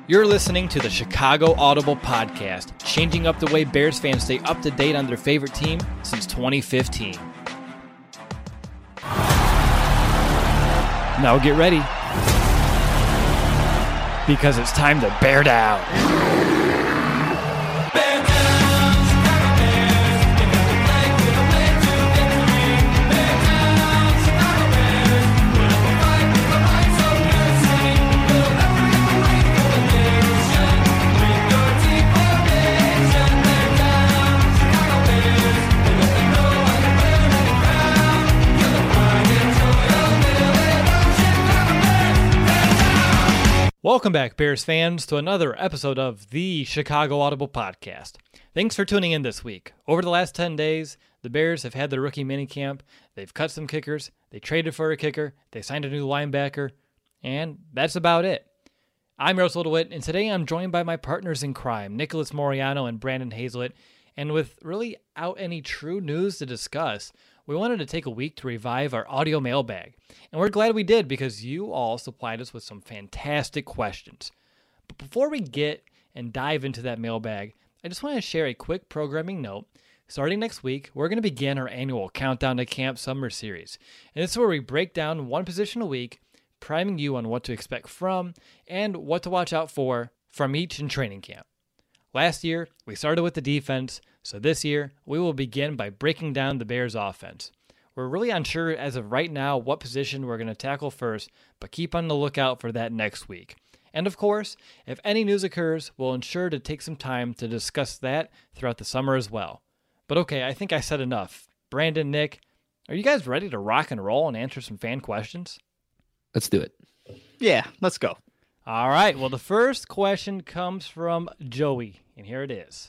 You're listening to the Chicago Audible Podcast, changing up the way Bears fans stay up to date on their favorite team since 2015. Now get ready, because it's time to bear down. Welcome back, Bears fans, to another episode of the Chicago Audible Podcast. Thanks for tuning in this week. Over the last 10 days, the Bears have had their rookie minicamp. They've cut some kickers. They traded for a kicker. They signed a new linebacker. And that's about it. I'm Russell DeWitt, and today I'm joined by my partners in crime, Nicholas Moriano and Brandon Hazlett. And with really out any true news to discuss, we wanted to take a week to revive our audio mailbag. And we're glad we did because you all supplied us with some fantastic questions. But before we get and dive into that mailbag, I just want to share a quick programming note. Starting next week, we're going to begin our annual Countdown to Camp Summer Series. And this is where we break down one position a week, priming you on what to expect from and what to watch out for from each in training camp. Last year, we started with the defense, so this year, we will begin by breaking down the Bears' offense. We're really unsure as of right now what position we're going to tackle first, but keep on the lookout for that next week. And of course, if any news occurs, we'll ensure to take some time to discuss that throughout the summer as well. But okay, I think I said enough. Brandon, Nick, are you guys ready to rock and roll and answer some fan questions? Let's do it. Yeah, let's go. All right, well, the first question comes from Joey, and here it is.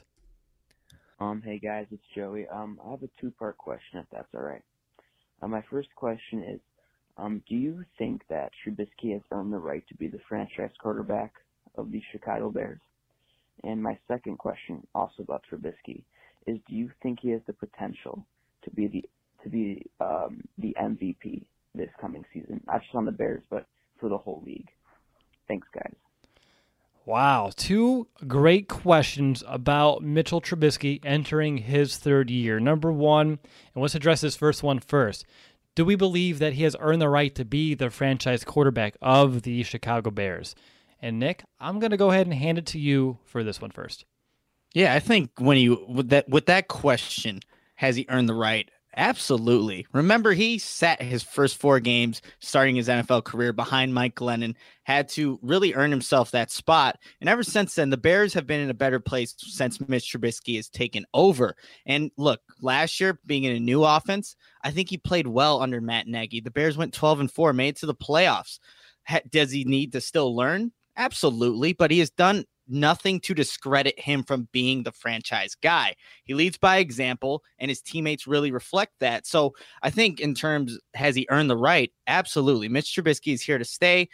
Hey guys, it's Joey. I have a two-part question, if that's all right. My first question is, do you think that Trubisky has earned the right to be the franchise quarterback of the Chicago Bears? And my second question, also about Trubisky, is do you think he has the potential to be the MVP this coming season, not just on the Bears, but for the whole league? Thanks, guys. Wow, two great questions about Mitchell Trubisky entering his third year. Number one, and let's address this first one first. Do we believe that he has earned the right to be the franchise quarterback of the Chicago Bears? And Nick, I'm going to go ahead and hand it to you for this one first. Yeah, I think with that question, has he earned the right? Absolutely. Remember, he sat his first 4 games starting his NFL career behind Mike Glennon, had to really earn himself that spot. And ever since then, the Bears have been in a better place since Mitch Trubisky has taken over. And look, last year, being in a new offense, I think he played well under Matt Nagy. The Bears went 12-4, made it to the playoffs. Does he need to still learn? Absolutely. But he has done nothing to discredit him from being the franchise guy. He leads by example, and his teammates really reflect that. So I think in terms, has he earned the right? Absolutely. Mitch Trubisky is here to stay.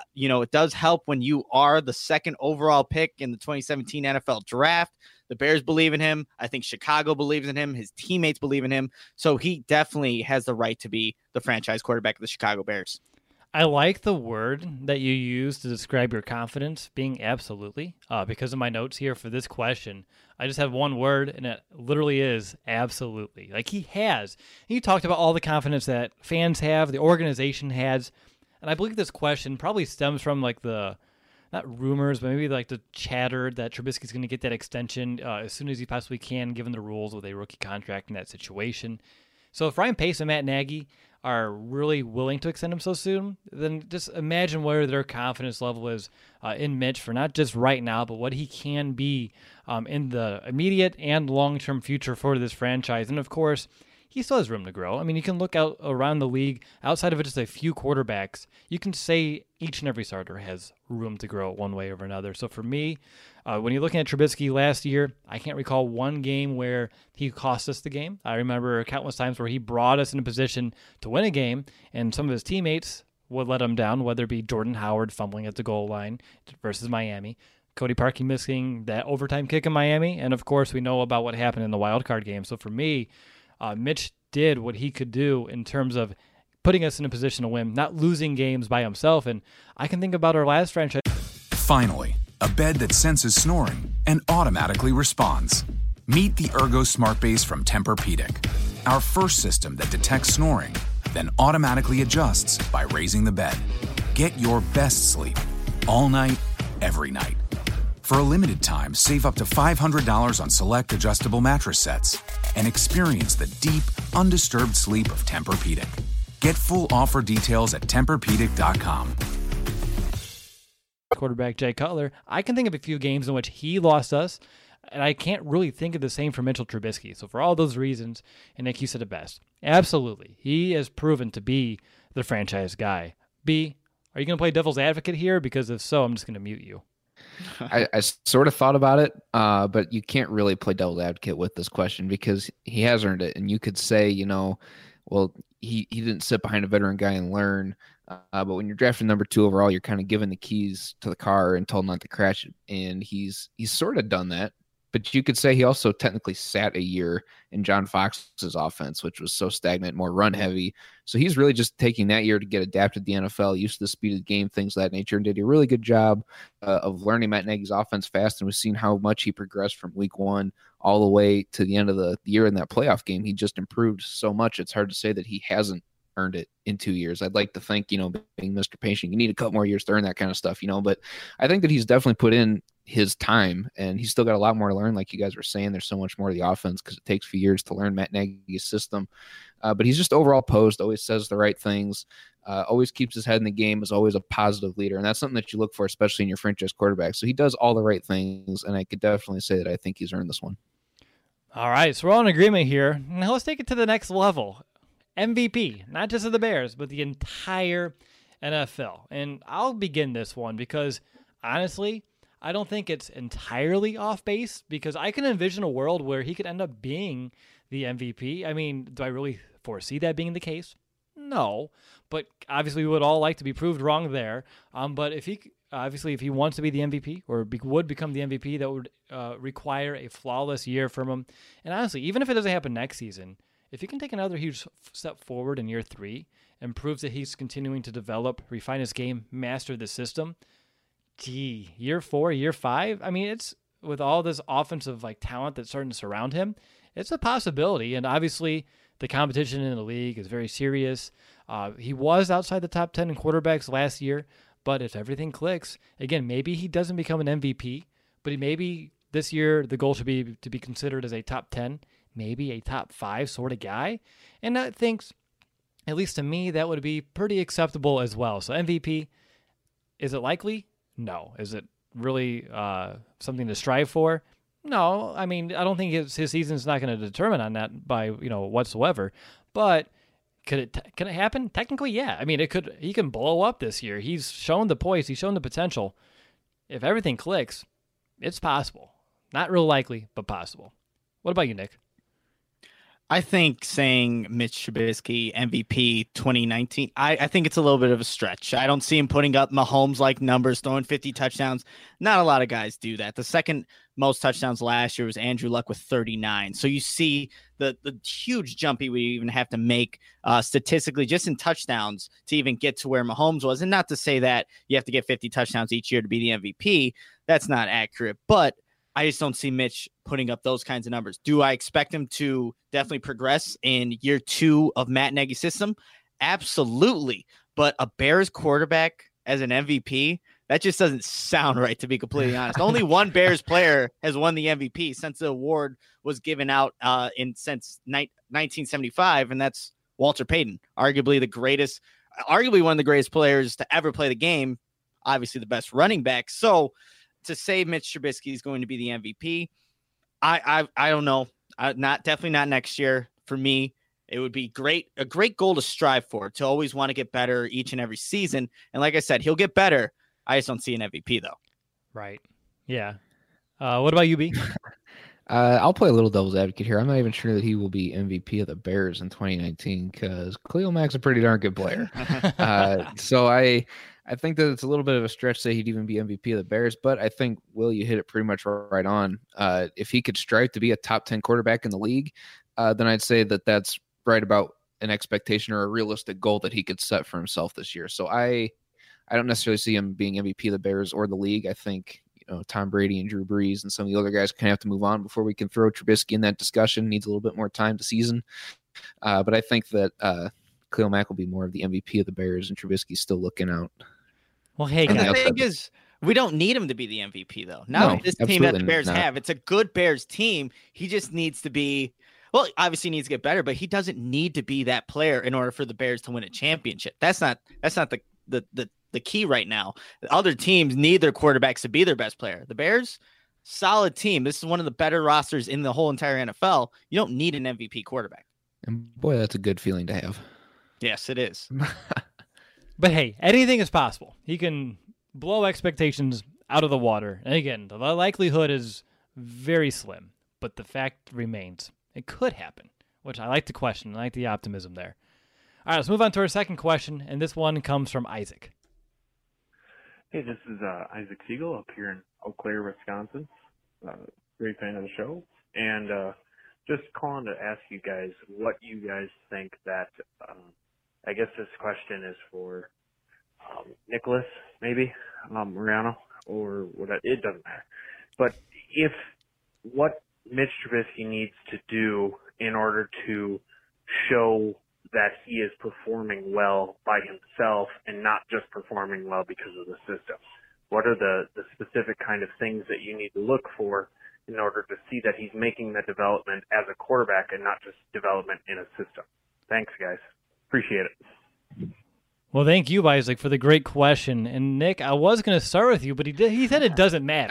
It does help when you are the second overall pick in the 2017 NFL draft. The Bears believe in him. I think Chicago believes in him. His teammates believe in him. So he definitely has the right to be the franchise quarterback of the Chicago Bears. I like the word that you use to describe your confidence being absolutely. Because of my notes here for this question, I just have one word, and it literally is absolutely. Like he has. You talked about all the confidence that fans have, the organization has, and I believe this question probably stems from like the, not rumors, but maybe like the chatter that Trubisky's going to get that extension as soon as he possibly can, given the rules with a rookie contract in that situation. So if Ryan Pace and Matt Nagy are really willing to extend him so soon, then just imagine where their confidence level is in Mitch for not just right now, but what he can be in the immediate and long-term future for this franchise. And of course, he still has room to grow. I mean, you can look out around the league, outside of just a few quarterbacks, you can say each and every starter has room to grow one way or another. So for me, when you're looking at Trubisky last year, I can't recall one game where he cost us the game. I remember countless times where he brought us in a position to win a game, and some of his teammates would let him down, whether it be Jordan Howard fumbling at the goal line versus Miami, Cody Parkey missing that overtime kick in Miami, and of course we know about what happened in the wild card game. So for me, Mitch did what he could do in terms of putting us in a position to win, not losing games by himself. And I can think about our last franchise. Finally, a bed that senses snoring and automatically responds. Meet the Ergo Smart Base from Tempur-Pedic, our first system that detects snoring, then automatically adjusts by raising the bed. Get your best sleep all night, every night. For a limited time, save up to $500 on select adjustable mattress sets and experience the deep, undisturbed sleep of Tempur-Pedic. Get full offer details at TempurPedic.com. Quarterback Jay Cutler, I can think of a few games in which he lost us, and I can't really think of the same for Mitchell Trubisky. So for all those reasons, and Nick, you said it best, absolutely, he has proven to be the franchise guy. B, are you going to play devil's advocate here? Because if so, I'm just going to mute you. I sort of thought about it, but you can't really play devil's advocate with this question because he has earned it. And you could say, well, he didn't sit behind a veteran guy and learn. But when you're drafting number 2 overall, you're kind of given the keys to the car and told not to crash it. And he's sort of done that. But you could say he also technically sat a year in John Fox's offense, which was so stagnant, more run heavy. So he's really just taking that year to get adapted to the NFL, used to the speed of the game, things of that nature, and did a really good job of learning Matt Nagy's offense fast. And we've seen how much he progressed from week 1 all the way to the end of the year in that playoff game. He just improved so much. It's hard to say that he hasn't earned it in 2 years. I'd like to think, being Mr. Patient, you need a couple more years to earn that kind of stuff, but I think that he's definitely put in his time and he's still got a lot more to learn. Like you guys were saying, there's so much more to the offense because it takes a few years to learn Matt Nagy's system. But he's just overall posed, always says the right things, always keeps his head in the game, is always a positive leader. And that's something that you look for, especially in your franchise quarterback. So he does all the right things. And I could definitely say that I think he's earned this one. All right. So we're all in agreement here. Now let's take it to the next level. MVP, not just of the Bears, but the entire NFL. And I'll begin this one because, honestly, I don't think it's entirely off base because I can envision a world where he could end up being the MVP. I mean, do I really foresee that being the case? No, but obviously we would all like to be proved wrong there. But if he wants to be the MVP or would become the MVP, that would require a flawless year from him. And honestly, even if it doesn't happen next season, if he can take another huge step forward in year 3 and proves that he's continuing to develop, refine his game, master the system, year 4, year 5, I mean, it's with all this offensive talent that's starting to surround him, it's a possibility. And obviously, the competition in the league is very serious. He was outside the top 10 in quarterbacks last year, but if everything clicks, again, maybe he doesn't become an MVP, but maybe this year the goal should be to be considered as a top 10, maybe a top 5 sort of guy. And I think, at least to me, that would be pretty acceptable as well. So MVP, is it likely? No. Is it really something to strive for? No. I mean, I don't think his season's not going to determine on that by whatsoever. But can it happen? Technically, yeah. I mean, it could. He can blow up this year. He's shown the poise. He's shown the potential. If everything clicks, it's possible. Not real likely, but possible. What about you, Nick? I think saying Mitch Trubisky MVP 2019, I think it's a little bit of a stretch. I don't see him putting up Mahomes-like numbers, throwing 50 touchdowns. Not a lot of guys do that. The second most touchdowns last year was Andrew Luck with 39. So you see the huge jump he would even have to make statistically just in touchdowns to even get to where Mahomes was. And not to say that you have to get 50 touchdowns each year to be the MVP. That's not accurate. But I just don't see Mitch putting up those kinds of numbers. Do I expect him to definitely progress in year 2 of Matt Nagy's system? Absolutely. But a Bears quarterback as an MVP, that just doesn't sound right, to be completely honest. Only one Bears player has won the MVP since the award was given out since 1975, and that's Walter Payton, arguably one of the greatest players to ever play the game, obviously the best running back. So to say Mitch Trubisky is going to be the MVP, I don't know. Definitely not next year. For me, it would be a great goal to strive for, to always want to get better each and every season. And like I said, he'll get better. I just don't see an MVP though. Right. Yeah. What about you, B? I'll play a little devil's advocate here. I'm not even sure that he will be MVP of the Bears in 2019 because Khalil Mack's a pretty darn good player. So I think that it's a little bit of a stretch to say he'd even be MVP of the Bears, but I think, Will, you hit it pretty much right on. If he could strive to be a top 10 quarterback in the league, then I'd say that that's right about an expectation or a realistic goal that he could set for himself this year. So I don't necessarily see him being MVP of the Bears or the league. I think Tom Brady and Drew Brees and some of the other guys kind of have to move on before we can throw Trubisky in that discussion. Needs a little bit more time to season. But I think that Khalil Mack will be more of the MVP of the Bears, and Trubisky's still looking out. Well, hey, And guys. the thing is, we don't need him to be the MVP, though. Not with this team that the Bears have. It's a good Bears team. He just needs to be, well, obviously needs to get better, but he doesn't need to be that player in order for the Bears to win a championship. That's not the key right now. Other teams need their quarterbacks to be their best player. The Bears, solid team. This is one of the better rosters in the whole entire NFL. You don't need an MVP quarterback. And boy, that's a good feeling to have. Yes, it is. But hey, anything is possible. He can blow expectations out of the water. And again, the likelihood is very slim, but the fact remains. It could happen, which I like to question. I like the optimism there. All right, let's move on to our second question, and this one comes from Isaac. Hey, this is Isaac Siegel up here in Eau Claire, Wisconsin. Great fan of the show. And just calling to ask you guys what you guys think that, I guess this question is for Nicholas, maybe, Mariano, or what, it doesn't matter. But what Mitch Trubisky needs to do in order to show that he is performing well by himself and not just performing well because of the system. What are the specific kind of things that you need to look for in order to see that he's making the development as a quarterback and not just development in a system? Thanks, guys. Appreciate it. Well, thank you, Isaac, for the great question. And Nick, I was going to start with you, but he said it doesn't matter.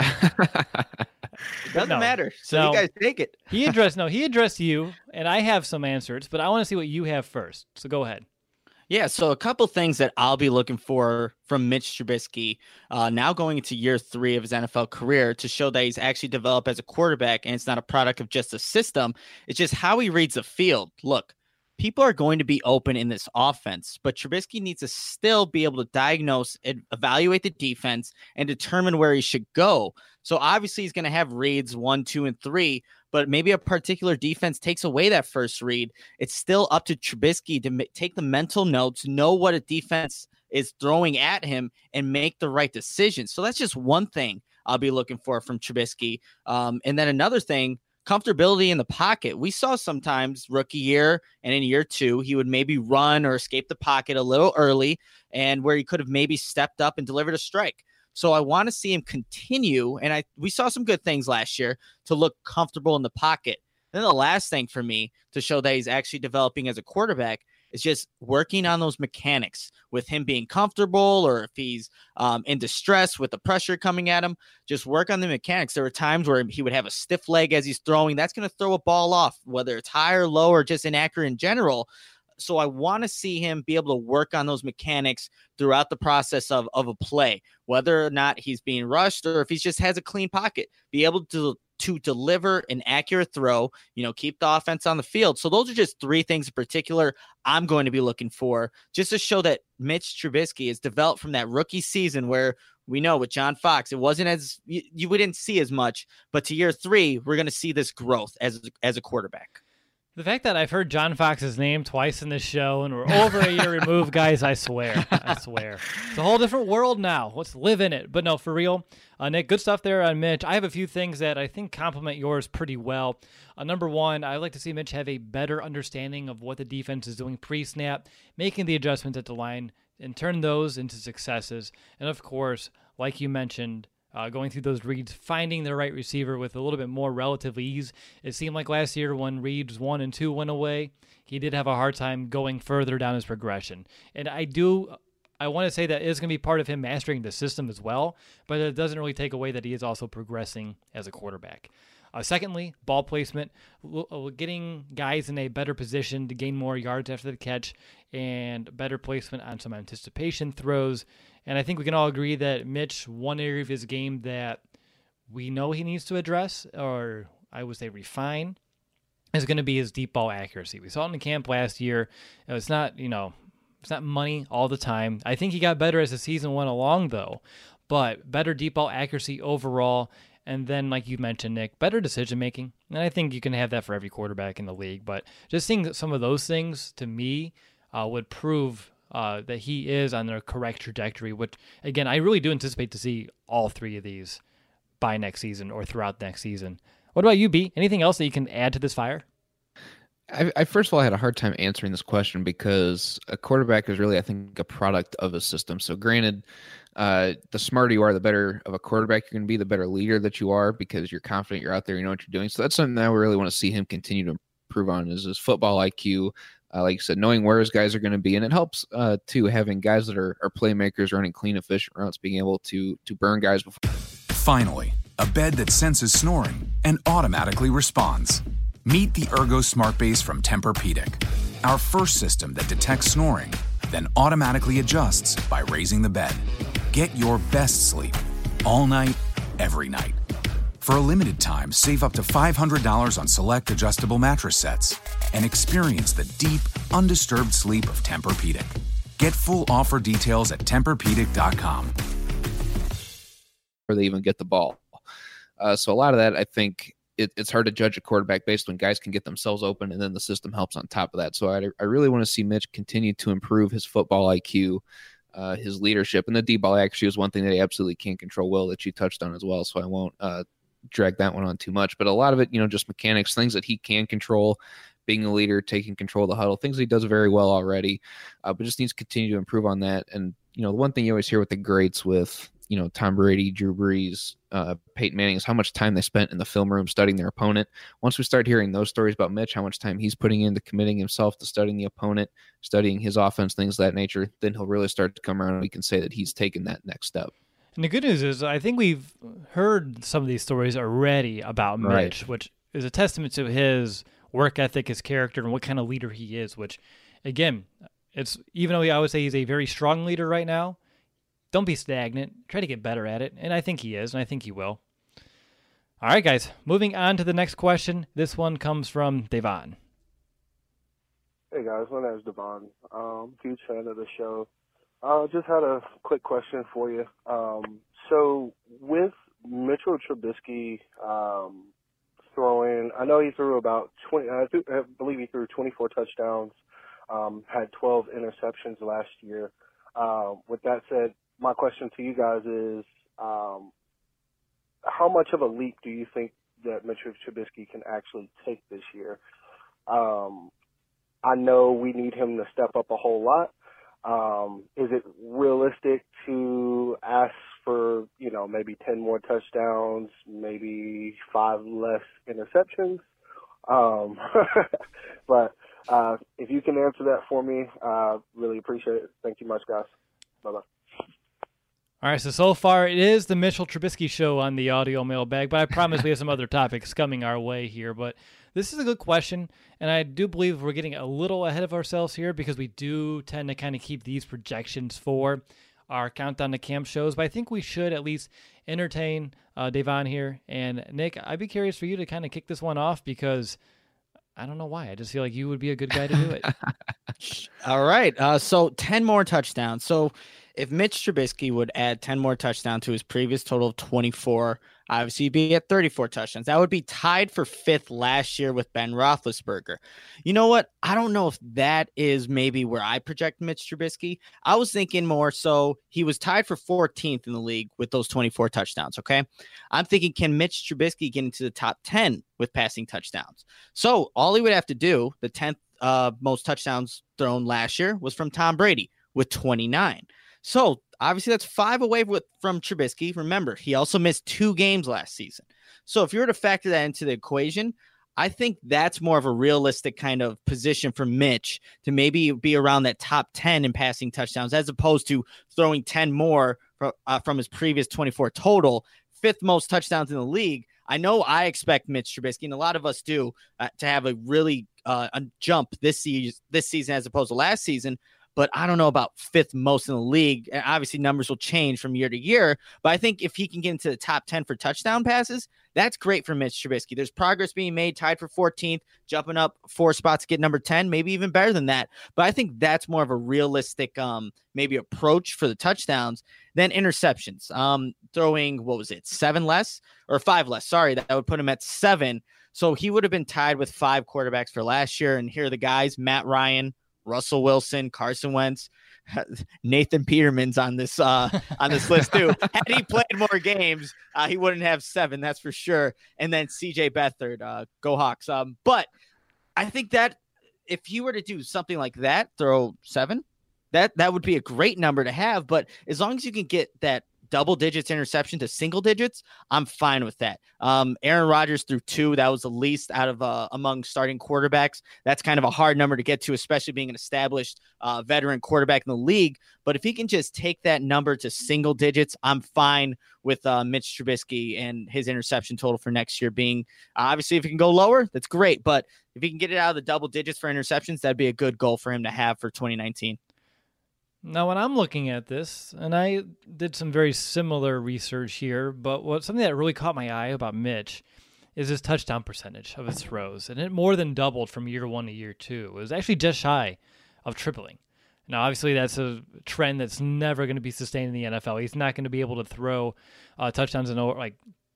It doesn't matter. So you guys take it. He addressed you, and I have some answers, but I want to see what you have first. So go ahead. Yeah, so a couple things that I'll be looking for from Mitch Trubisky now going into year 3 of his NFL career to show that he's actually developed as a quarterback and it's not a product of just a system. It's just how he reads the field. Look, people are going to be open in this offense, but Trubisky needs to still be able to diagnose and evaluate the defense and determine where he should go. So obviously he's going to have reads 1, 2, and 3, but maybe a particular defense takes away that first read. It's still up to Trubisky to take the mental notes, know what a defense is throwing at him, and make the right decision. So that's just one thing I'll be looking for from Trubisky. And then another thing, comfortability in the pocket. We saw sometimes rookie year and in year 2, he would maybe run or escape the pocket a little early and where he could have maybe stepped up and delivered a strike. So I want to see him continue, and we saw some good things last year, to look comfortable in the pocket. Then the last thing for me to show that he's actually developing as a quarterback is just working on those mechanics with him being comfortable, or if he's in distress with the pressure coming at him, just work on the mechanics. There were times where he would have a stiff leg as he's throwing. That's going to throw a ball off, whether it's high or low or just inaccurate in general. So I want to see him be able to work on those mechanics throughout the process of a play, whether or not he's being rushed or if he just has a clean pocket, be able to deliver an accurate throw, keep the offense on the field. So those are just 3 things in particular I'm going to be looking for, just to show that Mitch Trubisky is developed from that rookie season where we know with John Fox, it wasn't as we didn't see as much, but to year 3, we're going to see this growth as a quarterback. The fact that I've heard John Fox's name twice in this show and we're over a year removed, guys, I swear. It's a whole different world now. Let's live in it. But no, for real, Nick, good stuff there on Mitch. I have a few things that I think complement yours pretty well. Number one, I'd like to see Mitch have a better understanding of what the defense is doing pre-snap, making the adjustments at the line, and turn those into successes. And of course, like you mentioned, going through those reads, finding the right receiver with a little bit more relative ease. It seemed like last year when reads 1 and 2 went away, he did have a hard time going further down his progression. And I want to say that is going to be part of him mastering the system as well, but it doesn't really take away that he is also progressing as a quarterback. Secondly, ball placement, getting guys in a better position to gain more yards after the catch and better placement on some anticipation throws. And I think we can all agree that Mitch, one area of his game that we know he needs to address, or I would say refine, is going to be his deep ball accuracy. We saw it in the camp last year. It's not money all the time. I think he got better as the season went along, though, but better deep ball accuracy overall. And then, like you mentioned, Nick, better decision-making. And I think you can have that for every quarterback in the league. But just seeing some of those things, to me, would prove that he is on the correct trajectory, which, again, I really do anticipate to see all 3 of these by next season or throughout next season. What about you, B? Anything else that you can add to this fire? I first of all had a hard time answering this question because a quarterback is really, I think, a product of a system. So granted, the smarter you are, the better of a quarterback you're going to be, the better leader that you are because you're confident, you're out there, you know what you're doing. So that's something that I really want to see him continue to improve on is his football IQ. Like you said, knowing where his guys are going to be. And it helps, too, having guys that are playmakers, running clean, efficient routes, being able to burn guys before. Finally, a bed that senses snoring and automatically responds. Meet the Ergo Smart Base from Tempur-Pedic, our first system that detects snoring, then automatically adjusts by raising the bed. Get your best sleep all night, every night. For a limited time, save up to $500 on select adjustable mattress sets and experience the deep, undisturbed sleep of Tempur-Pedic. Get full offer details at TempurPedic.com. Before they even get the ball. So a lot of that, I think, it's hard to judge a quarterback based when guys can get themselves open and then the system helps on top of that. So I really want to see Mitch continue to improve his football IQ, his leadership, and the D-ball actually is one thing that he absolutely can't control well that you touched on as well. So I won't drag that one on too much, but a lot of it, just mechanics, things that he can control, being a leader, taking control of the huddle, things he does very well already, but just needs to continue to improve on that. And, the one thing you always hear with the greats with, Tom Brady, Drew Brees, Peyton Manning is how much time they spent in the film room studying their opponent. Once we start hearing those stories about Mitch, how much time he's putting into committing himself to studying the opponent, studying his offense, things of that nature, then he'll really start to come around and we can say that he's taken that next step. And the good news is I think we've heard some of these stories already about Mitch, which is a testament to his work ethic, his character, and what kind of leader he is, which, again, it's even though I would say he's a very strong leader right now, don't be stagnant. Try to get better at it. And I think he is, and I think he will. All right, guys. Moving on to the next question. This one comes from Devon. Hey, guys. My name is Devon. Huge fan of the show. Just had a quick question for you. So with Mitchell Trubisky throwing, I know he threw about 20, I believe he threw 24 touchdowns, had 12 interceptions last year. With that said, my question to you guys is, how much of a leap do you think that Mitchell Trubisky can actually take this year? I know we need him to step up a whole lot. Is it realistic to ask for, maybe 10 more touchdowns, maybe 5 less interceptions? But if you can answer that for me, really appreciate it. Thank you much, guys. Bye-bye. All right, so far it is the Mitchell Trubisky show on the audio mailbag, but I promise we have some other topics coming our way here. But this is a good question, and I do believe we're getting a little ahead of ourselves here because we do tend to kind of keep these projections for our Countdown to Camp shows, but I think we should at least entertain Devon here. And Nick, I'd be curious for you to kind of kick this one off because I don't know why. I just feel like you would be a good guy to do it. All right. So 10 more touchdowns. So if Mitch Trubisky would add 10 more touchdowns to his previous total of 24, obviously he'd be at 34 touchdowns. That would be tied for 5th last year with Ben Roethlisberger. You know what? I don't know if that is maybe where I project Mitch Trubisky. I was thinking more so he was tied for 14th in the league with those 24 touchdowns, okay? I'm thinking, can Mitch Trubisky get into the top 10 with passing touchdowns? So all he would have to do, the 10th most touchdowns thrown last year was from Tom Brady with 29. So obviously that's 5 away from Trubisky. Remember, he also missed 2 games last season. So if you were to factor that into the equation, I think that's more of a realistic kind of position for Mitch to maybe be around that top 10 in passing touchdowns, as opposed to throwing 10 more from his previous 24 total, 5th most touchdowns in the league. I know I expect Mitch Trubisky, and a lot of us do, to have a really a jump this season as opposed to last season. But I don't know about 5th most in the league. And obviously, numbers will change from year to year. But I think if he can get into the top 10 for touchdown passes, that's great for Mitch Trubisky. There's progress being made, tied for 14th, jumping up 4 spots to get number 10, maybe even better than that. But I think that's more of a realistic maybe approach for the touchdowns than interceptions. Throwing, 7 less or 5 less? Sorry, that would put him at 7. So he would have been tied with 5 quarterbacks for last year. And here are the guys: Matt Ryan, Russell Wilson, Carson Wentz. Nathan Peterman's on this list too. Had he played more games, he wouldn't have 7, that's for sure. And then CJ Beathard, go Hawks. But I think that if you were to do something like that, throw 7, that would be a great number to have. But as long as you can get that double digits interception to single digits, I'm fine with that. Aaron Rodgers threw 2. That was the least out of among starting quarterbacks. That's kind of a hard number to get to, especially being an established veteran quarterback in the league. But if he can just take that number to single digits, I'm fine with Mitch Trubisky and his interception total for next year being, obviously, if he can go lower, that's great. But if he can get it out of the double digits for interceptions, that'd be a good goal for him to have for 2019. Now, when I'm looking at this, and I did some very similar research here, but something that really caught my eye about Mitch is his touchdown percentage of his throws, and it more than doubled from year 1 to year 2. It was actually just shy of tripling. Now, obviously, that's a trend that's never going to be sustained in the NFL. He's not going to be able to throw touchdowns in like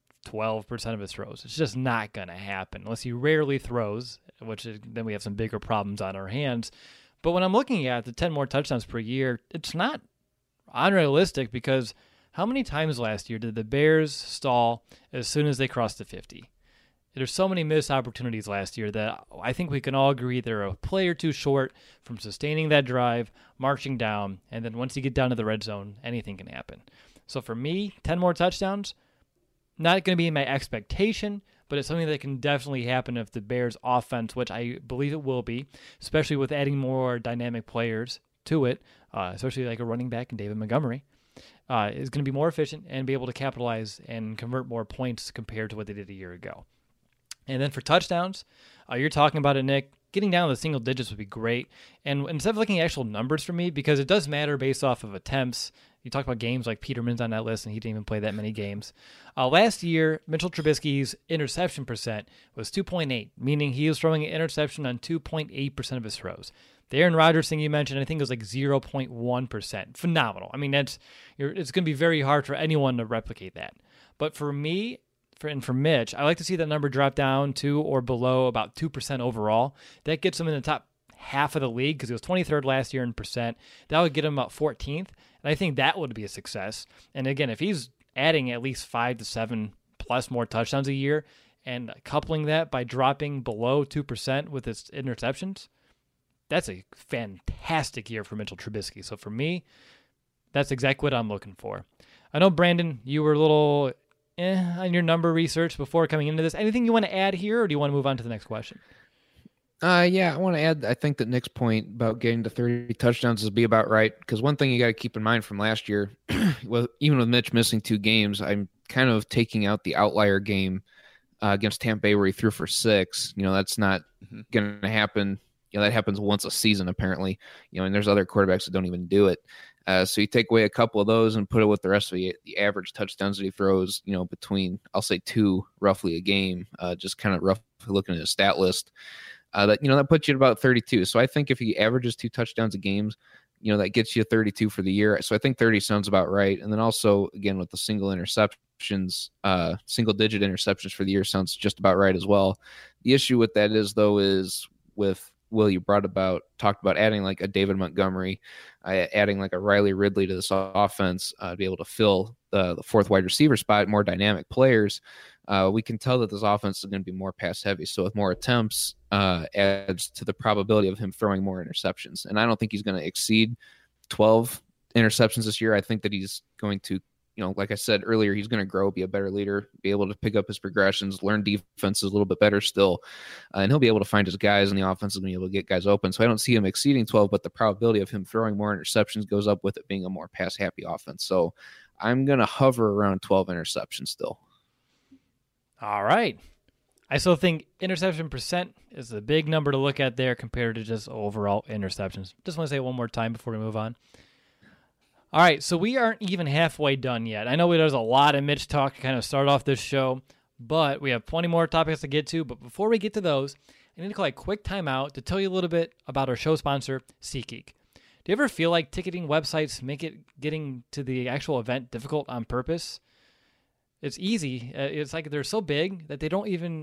12% of his throws. It's just not going to happen unless he rarely throws, then we have some bigger problems on our hands. But when I'm looking at the 10 more touchdowns per year, it's not unrealistic because how many times last year did the Bears stall as soon as they crossed the 50? There's so many missed opportunities last year that I think we can all agree they're a play or two short from sustaining that drive, marching down, and then once you get down to the red zone, anything can happen. So for me, 10 more touchdowns, not going to be my expectation, but it's something that can definitely happen if the Bears offense, which I believe it will be, especially with adding more dynamic players to it, especially like a running back in David Montgomery, is going to be more efficient and be able to capitalize and convert more points compared to what they did a year ago. And then for touchdowns, you're talking about it, Nick, getting down to the single digits would be great. And instead of looking at actual numbers for me, because it does matter based off of attempts, you talk about games like Peterman's on that list, and he didn't even play that many games. Last year, Mitchell Trubisky's interception percent was 2.8, meaning he was throwing an interception on 2.8% of his throws. The Aaron Rodgers thing you mentioned, I think it was like 0.1%. Phenomenal. I mean, it's going to be very hard for anyone to replicate that. But for me, for Mitch, I like to see that number drop down to or below about 2% overall. That gets him in the top half of the league because he was 23rd last year in percent. That would get him about 14th. And I think that would be a success. And again, if he's adding at least 5 to 7 plus more touchdowns a year and coupling that by dropping below 2% with his interceptions, that's a fantastic year for Mitchell Trubisky. So for me, that's exactly what I'm looking for. I know, Brandon, you were a little on your number research before coming into this. Anything you want to add here, or do you want to move on to the next question? Yeah, I want to add, I think that Nick's point about getting to 30 touchdowns is be about right. Because one thing you got to keep in mind from last year, well, even with Mitch missing 2 games, I'm kind of taking out the outlier game against Tampa Bay where he threw for 6. That's not going to happen. That happens once a season, apparently. And there's other quarterbacks that don't even do it. So you take away a couple of those and put it with the rest of the average touchdowns that he throws, between, I'll say 2 roughly a game, just kind of roughly looking at his stat list. That puts you at about 32. So I think if he averages 2 touchdowns a game, that gets you 32 for the year. So I think 30 sounds about right. And then also, again, with the single digit interceptions for the year sounds just about right as well. The issue with that is with Will, you talked about adding like a David Montgomery, adding like a Riley Ridley to this offense to be able to fill the 4th wide receiver spot, more dynamic players. We can tell that this offense is going to be more pass heavy. So with more attempts, adds to the probability of him throwing more interceptions. And I don't think he's going to exceed 12 interceptions this year. I think that he's going to, like I said earlier, he's going to grow, be a better leader, be able to pick up his progressions, learn defenses a little bit better still. And he'll be able to find his guys, and the offense will be able to get guys open. So I don't see him exceeding 12, but the probability of him throwing more interceptions goes up with it being a more pass happy offense. So I'm going to hover around 12 interceptions still. All right. I still think interception percent is a big number to look at there compared to just overall interceptions. Just want to say it one more time before we move on. All right, so we aren't even halfway done yet. I know there's a lot of Mitch talk to kind of start off this show, but we have plenty more topics to get to. But before we get to those, I need to call a quick timeout to tell you a little bit about our show sponsor, SeatGeek. Do you ever feel like ticketing websites make getting to the actual event difficult on purpose? It's easy. It's like they're so big that they don't even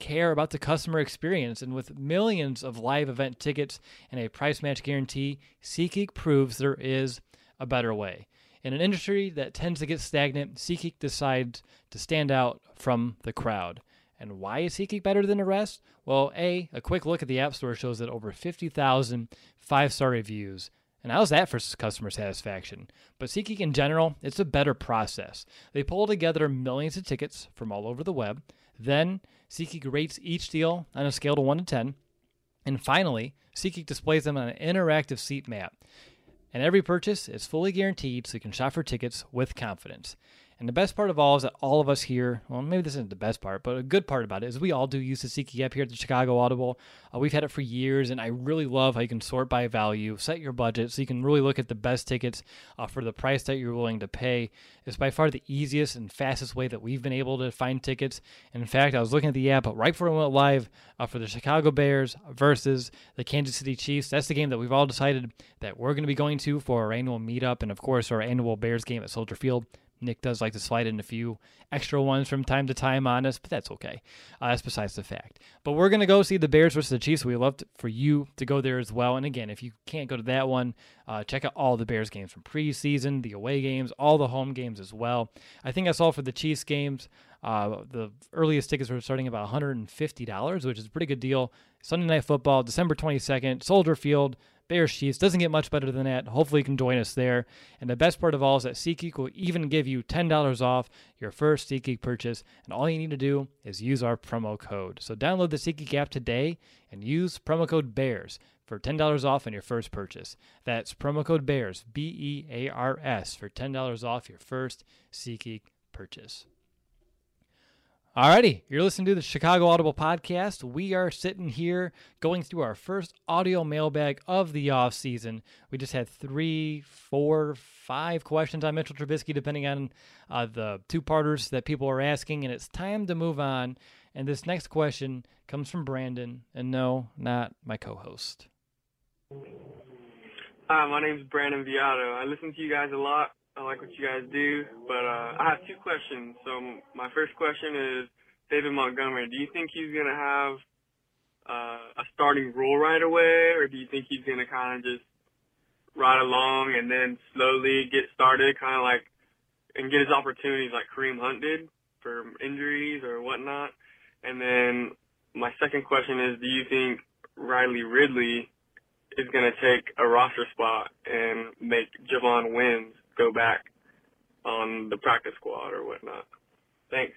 care about the customer experience. And with millions of live event tickets and a price match guarantee, SeatGeek proves there is a better way. In an industry that tends to get stagnant, SeatGeek decides to stand out from the crowd. And why is SeatGeek better than the rest? Well, a quick look at the App Store shows that over 50,000 5-star reviews. And how's that for customer satisfaction? But SeatGeek in general, it's a better process. They pull together millions of tickets from all over the web. Then SeatGeek rates each deal on a scale of 1 to 10. And finally, SeatGeek displays them on an interactive seat map. And every purchase is fully guaranteed, so you can shop for tickets with confidence. And the best part of all is that all of us here, well, maybe this isn't the best part, but a good part about it is we all do use the SeatGeek app here at the Chicago Audible. We've had it for years, and I really love how you can sort by value, set your budget, so you can really look at the best tickets for the price that you're willing to pay. It's by far the easiest and fastest way that we've been able to find tickets. And in fact, I was looking at the app right before it went live for the Chicago Bears versus the Kansas City Chiefs. That's the game that we've all decided that we're going to be going to for our annual meetup and, of course, our annual Bears game at Soldier Field. Nick does like to slide in a few extra ones from time to time on us, but that's okay. That's besides the fact. But we're going to go see the Bears versus the Chiefs. We'd love for you to go there as well. And again, if you can't go to that one, check out all the Bears games from preseason, the away games, all the home games as well. I think I saw for the Chiefs games, the earliest tickets were starting about $150, which is a pretty good deal. Sunday Night Football, December 22nd, Soldier Field, Bears Chiefs. Doesn't get much better than that. Hopefully you can join us there. And the best part of all is that SeatGeek will even give you $10 off your first SeatGeek purchase. And all you need to do is use our promo code. So download the SeatGeek app today and use promo code BEARS for $10 off on your first purchase. That's promo code BEARS, BEARS, for $10 off your first SeatGeek purchase. Alrighty, you're listening to the Chicago Audible Podcast. We are sitting here going through our first audio mailbag of the off season. We just had 3, 4, 5 questions on Mitchell Trubisky, depending on the two-parters that people are asking, and it's time to move on. And this next question comes from Brandon, and no, not my co-host. Hi, my name's Brandon Viato. I listen to you guys a lot. I like what you guys do, but I have 2 questions. So my first question is, David Montgomery, do you think he's going to have a starting role right away, or do you think he's going to kind of just ride along and then slowly get started, kind of like, and get his opportunities like Kareem Hunt did for injuries or whatnot? And then my second question is, do you think Riley Ridley is going to take a roster spot and make Javon Wims go back on the practice squad or whatnot? Thanks.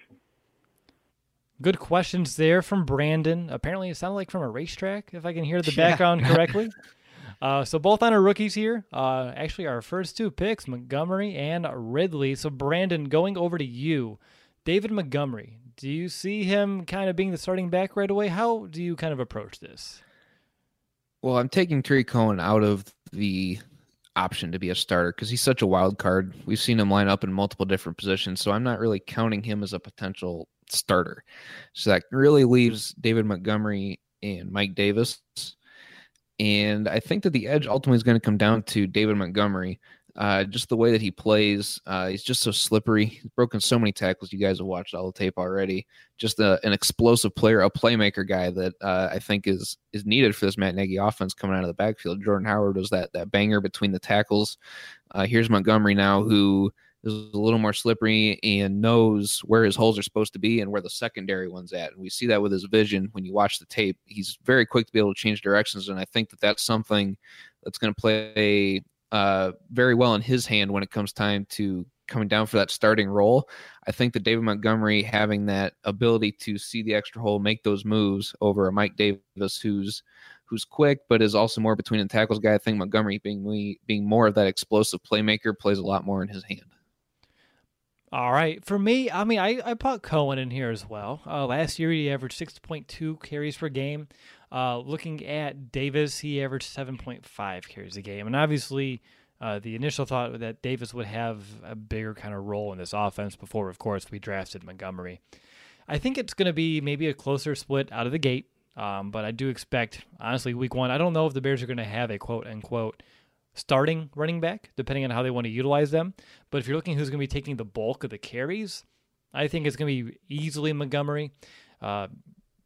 Good questions there from Brandon. Apparently it sounded like from a racetrack, if I can hear the background correctly. So both on our rookies here. Actually, our first 2 picks, Montgomery and Ridley. So Brandon, going over to you. David Montgomery, do you see him kind of being the starting back right away? How do you kind of approach this? Well, I'm taking Tariq Cohen out of the option to be a starter because he's such a wild card. We've seen him line up in multiple different positions, so I'm not really counting him as a potential starter. So that really leaves David Montgomery and Mike Davis. And I think that the edge ultimately is going to come down to David Montgomery. Just the way that he plays, he's just so slippery. He's broken so many tackles. You guys have watched all the tape already. Just an explosive player, a playmaker guy that I think is needed for this Matt Nagy offense coming out of the backfield. Jordan Howard was that banger between the tackles. Here's Montgomery now, who is a little more slippery and knows where his holes are supposed to be and where the secondary one's at. And we see that with his vision when you watch the tape. He's very quick to be able to change directions, and I think that that's something that's going to play very well in his hand when it comes time to coming down for that starting role. I think that David Montgomery having that ability to see the extra hole, make those moves over a Mike Davis who's quick but is also more between the tackles guy. I think Montgomery being more of that explosive playmaker plays a lot more in his hand. All right. For me, I mean, I put Cohen in here as well. Last year, he averaged 6.2 carries per game. Looking at Davis, he averaged 7.5 carries a game. And obviously, the initial thought that Davis would have a bigger kind of role in this offense before, of course, we drafted Montgomery. I think it's going to be maybe a closer split out of the gate. But I do expect, honestly, week 1, I don't know if the Bears are going to have a quote-unquote starting running back, depending on how they want to utilize them. But if you're looking who's going to be taking the bulk of the carries, I think it's going to be easily Montgomery.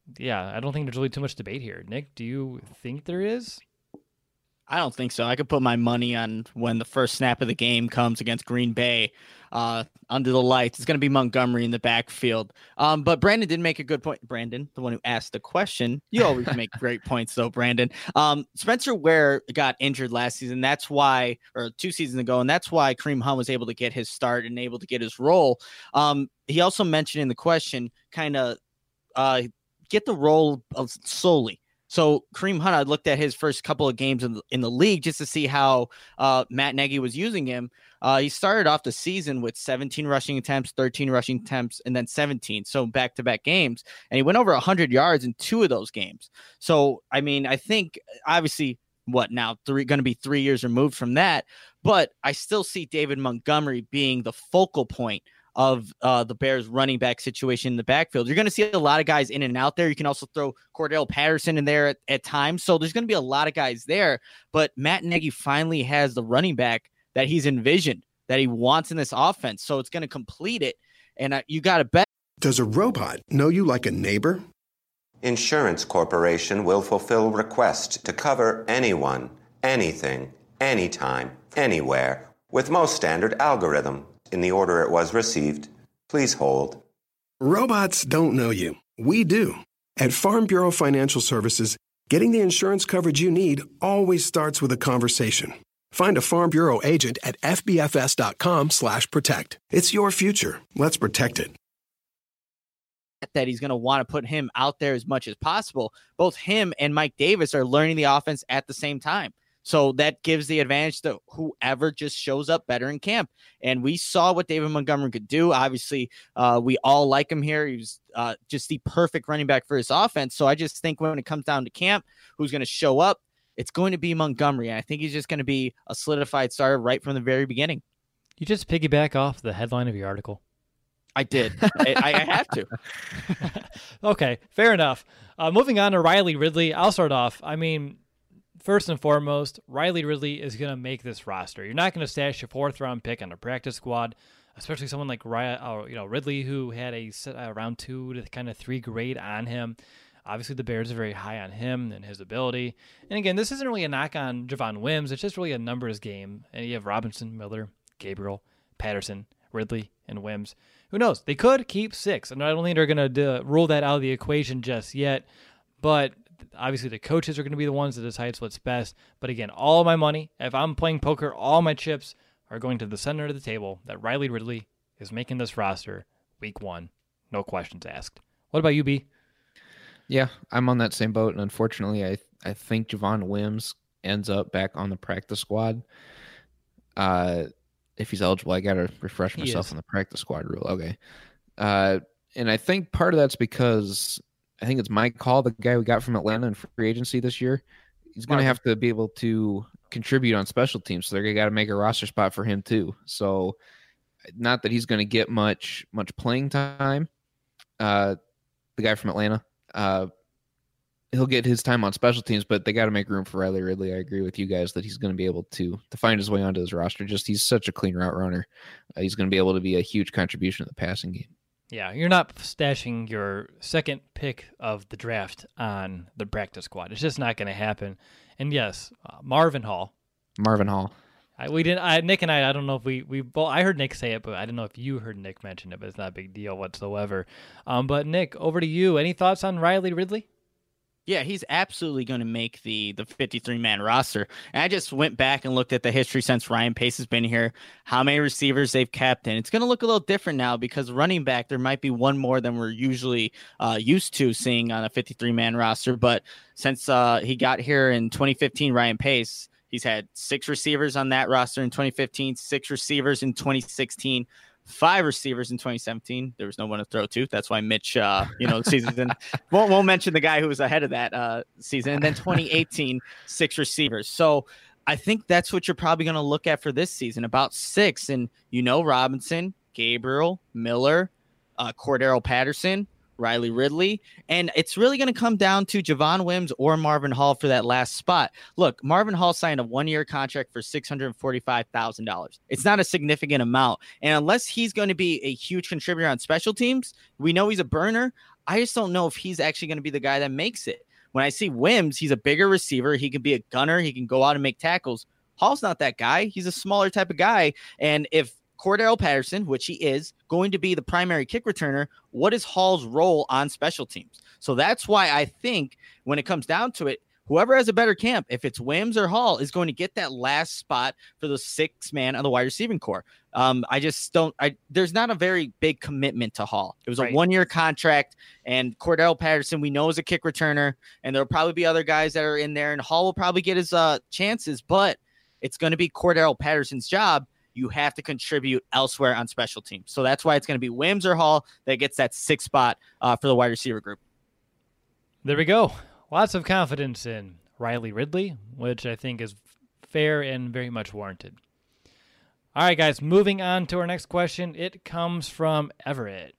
yeah, I don't think there's really too much debate here. Nick, do you think there is? I don't think so. I could put my money on when the first snap of the game comes against Green Bay under the lights. It's going to be Montgomery in the backfield. But Brandon did make a good point. Brandon, the one who asked the question. You always make great points, though, Brandon. Spencer Ware got injured last season. That's why, or 2 seasons ago, and that's why Kareem Hunt was able to get his start and able to get his role. He also mentioned in the question kind of get the role of solely. So Kareem Hunt, I looked at his first couple of games in the league just to see how Matt Nagy was using him. He started off the season with 17 rushing attempts, 13 rushing attempts, and then 17. So back-to-back games. And he went over 100 yards in 2 of those games. So, I mean, I think obviously going to be 3 years removed from that. But I still see David Montgomery being the focal point of the Bears running back situation in the backfield. You're going to see a lot of guys in and out there. You can also throw Cordell Patterson in there at times. So there's going to be a lot of guys there, but Matt Nagy finally has the running back that he's envisioned, that he wants in this offense. So it's going to complete it. And you got to bet. Does a robot know you like a neighbor? Insurance Corporation will fulfill requests to cover anyone, anything, anytime, anywhere, with most standard algorithm. In the order it was received, please hold. Robots don't know you. We do. At Farm Bureau Financial Services, getting the insurance coverage you need always starts with a conversation. Find a Farm Bureau agent at fbfs.com/protect. It's your future. Let's protect it. That he's going to want to put him out there as much as possible. Both him and Mike Davis are learning the offense at the same time. So that gives the advantage to whoever just shows up better in camp. And we saw what David Montgomery could do. Obviously, we all like him here. He was just the perfect running back for his offense. So I just think when it comes down to camp, who's going to show up, it's going to be Montgomery. And I think he's just going to be a solidified starter right from the very beginning. You just piggyback off the headline of your article. I did. I have to. Okay, fair enough. Moving on to Riley Ridley. I'll start off. I mean, first and foremost, Riley Ridley is going to make this roster. You're not going to stash your 4th-round pick on a practice squad, especially someone like Ridley, who had a round 2 to kind of 3 grade on him. Obviously, the Bears are very high on him and his ability. And again, this isn't really a knock on Javon Wims. It's just really a numbers game. And you have Robinson, Miller, Gabriel, Patterson, Ridley, and Wims. Who knows? They could keep 6. And I don't think they're going to rule that out of the equation just yet. But obviously, the coaches are going to be the ones that decide what's best. But again, all of my money, if I'm playing poker, all my chips are going to the center of the table that Riley Ridley is making this roster week 1. No questions asked. What about you, B? Yeah, I'm on that same boat. And unfortunately, I think Javon Wims ends up back on the practice squad. If he's eligible, I got to refresh myself on the practice squad rule. Okay. And I think part of that's because I think it's Mike Hall, the guy we got from Atlanta in free agency this year. He's going to have to be able to contribute on special teams. So they're got to make a roster spot for him too. So not that he's going to get much playing time. The guy from Atlanta, he'll get his time on special teams, but they got to make room for Riley Ridley. I agree with you guys that he's going to be able to find his way onto his roster. Just he's such a clean route runner. He's going to be able to be a huge contribution to the passing game. Yeah, you're not stashing your 2nd pick of the draft on the practice squad. It's just not going to happen. And yes, Marvin Hall. Nick and I don't know if we both, I heard Nick say it, but I don't know if you heard Nick mention it, but it's not a big deal whatsoever. But Nick, over to you. Any thoughts on Riley Ridley? Yeah, he's absolutely going to make the 53-man roster. And I just went back and looked at the history since Ryan Pace has been here, how many receivers they've kept. And it's going to look a little different now because running back, there might be one more than we're usually used to seeing on a 53-man roster. But since he got here in 2015, Ryan Pace, he's had 6 receivers on that roster in 2015, 6 receivers in 2016, 5 receivers in 2017. There was no one to throw to. That's why Mitch, the season won't mention the guy who was ahead of that season. And then 2018, 6 receivers. So I think that's what you're probably going to look at for this season, about 6. And Robinson, Gabriel, Miller, Cordero Patterson, Riley Ridley, and it's really going to come down to Javon Wims or Marvin Hall for that last spot. Look, Marvin Hall signed a 1-year contract for $645,000. It's not a significant amount, and unless he's going to be a huge contributor on special teams, we know he's a burner. I just don't know if he's actually going to be the guy that makes it. When I see Wims, he's a bigger receiver. He can be a gunner. He can go out and make tackles. Hall's not that guy. He's a smaller type of guy. And if Cordell Patterson, which he is, going to be the primary kick returner, what is Hall's role on special teams? So that's why I think when it comes down to it, whoever has a better camp, if it's Wims or Hall, is going to get that last spot for the 6-man on the wide receiving core. I just don't. There's not a very big commitment to Hall. It was a 1-year contract, and Cordell Patterson we know is a kick returner, and there'll probably be other guys that are in there, and Hall will probably get his chances, but it's going to be Cordell Patterson's job. You have to contribute elsewhere on special teams. So that's why it's going to be Wims or Hall that gets that 6th spot for the wide receiver group. There we go. Lots of confidence in Riley Ridley, which I think is fair and very much warranted. All right, guys, moving on to our next question. It comes from Everett.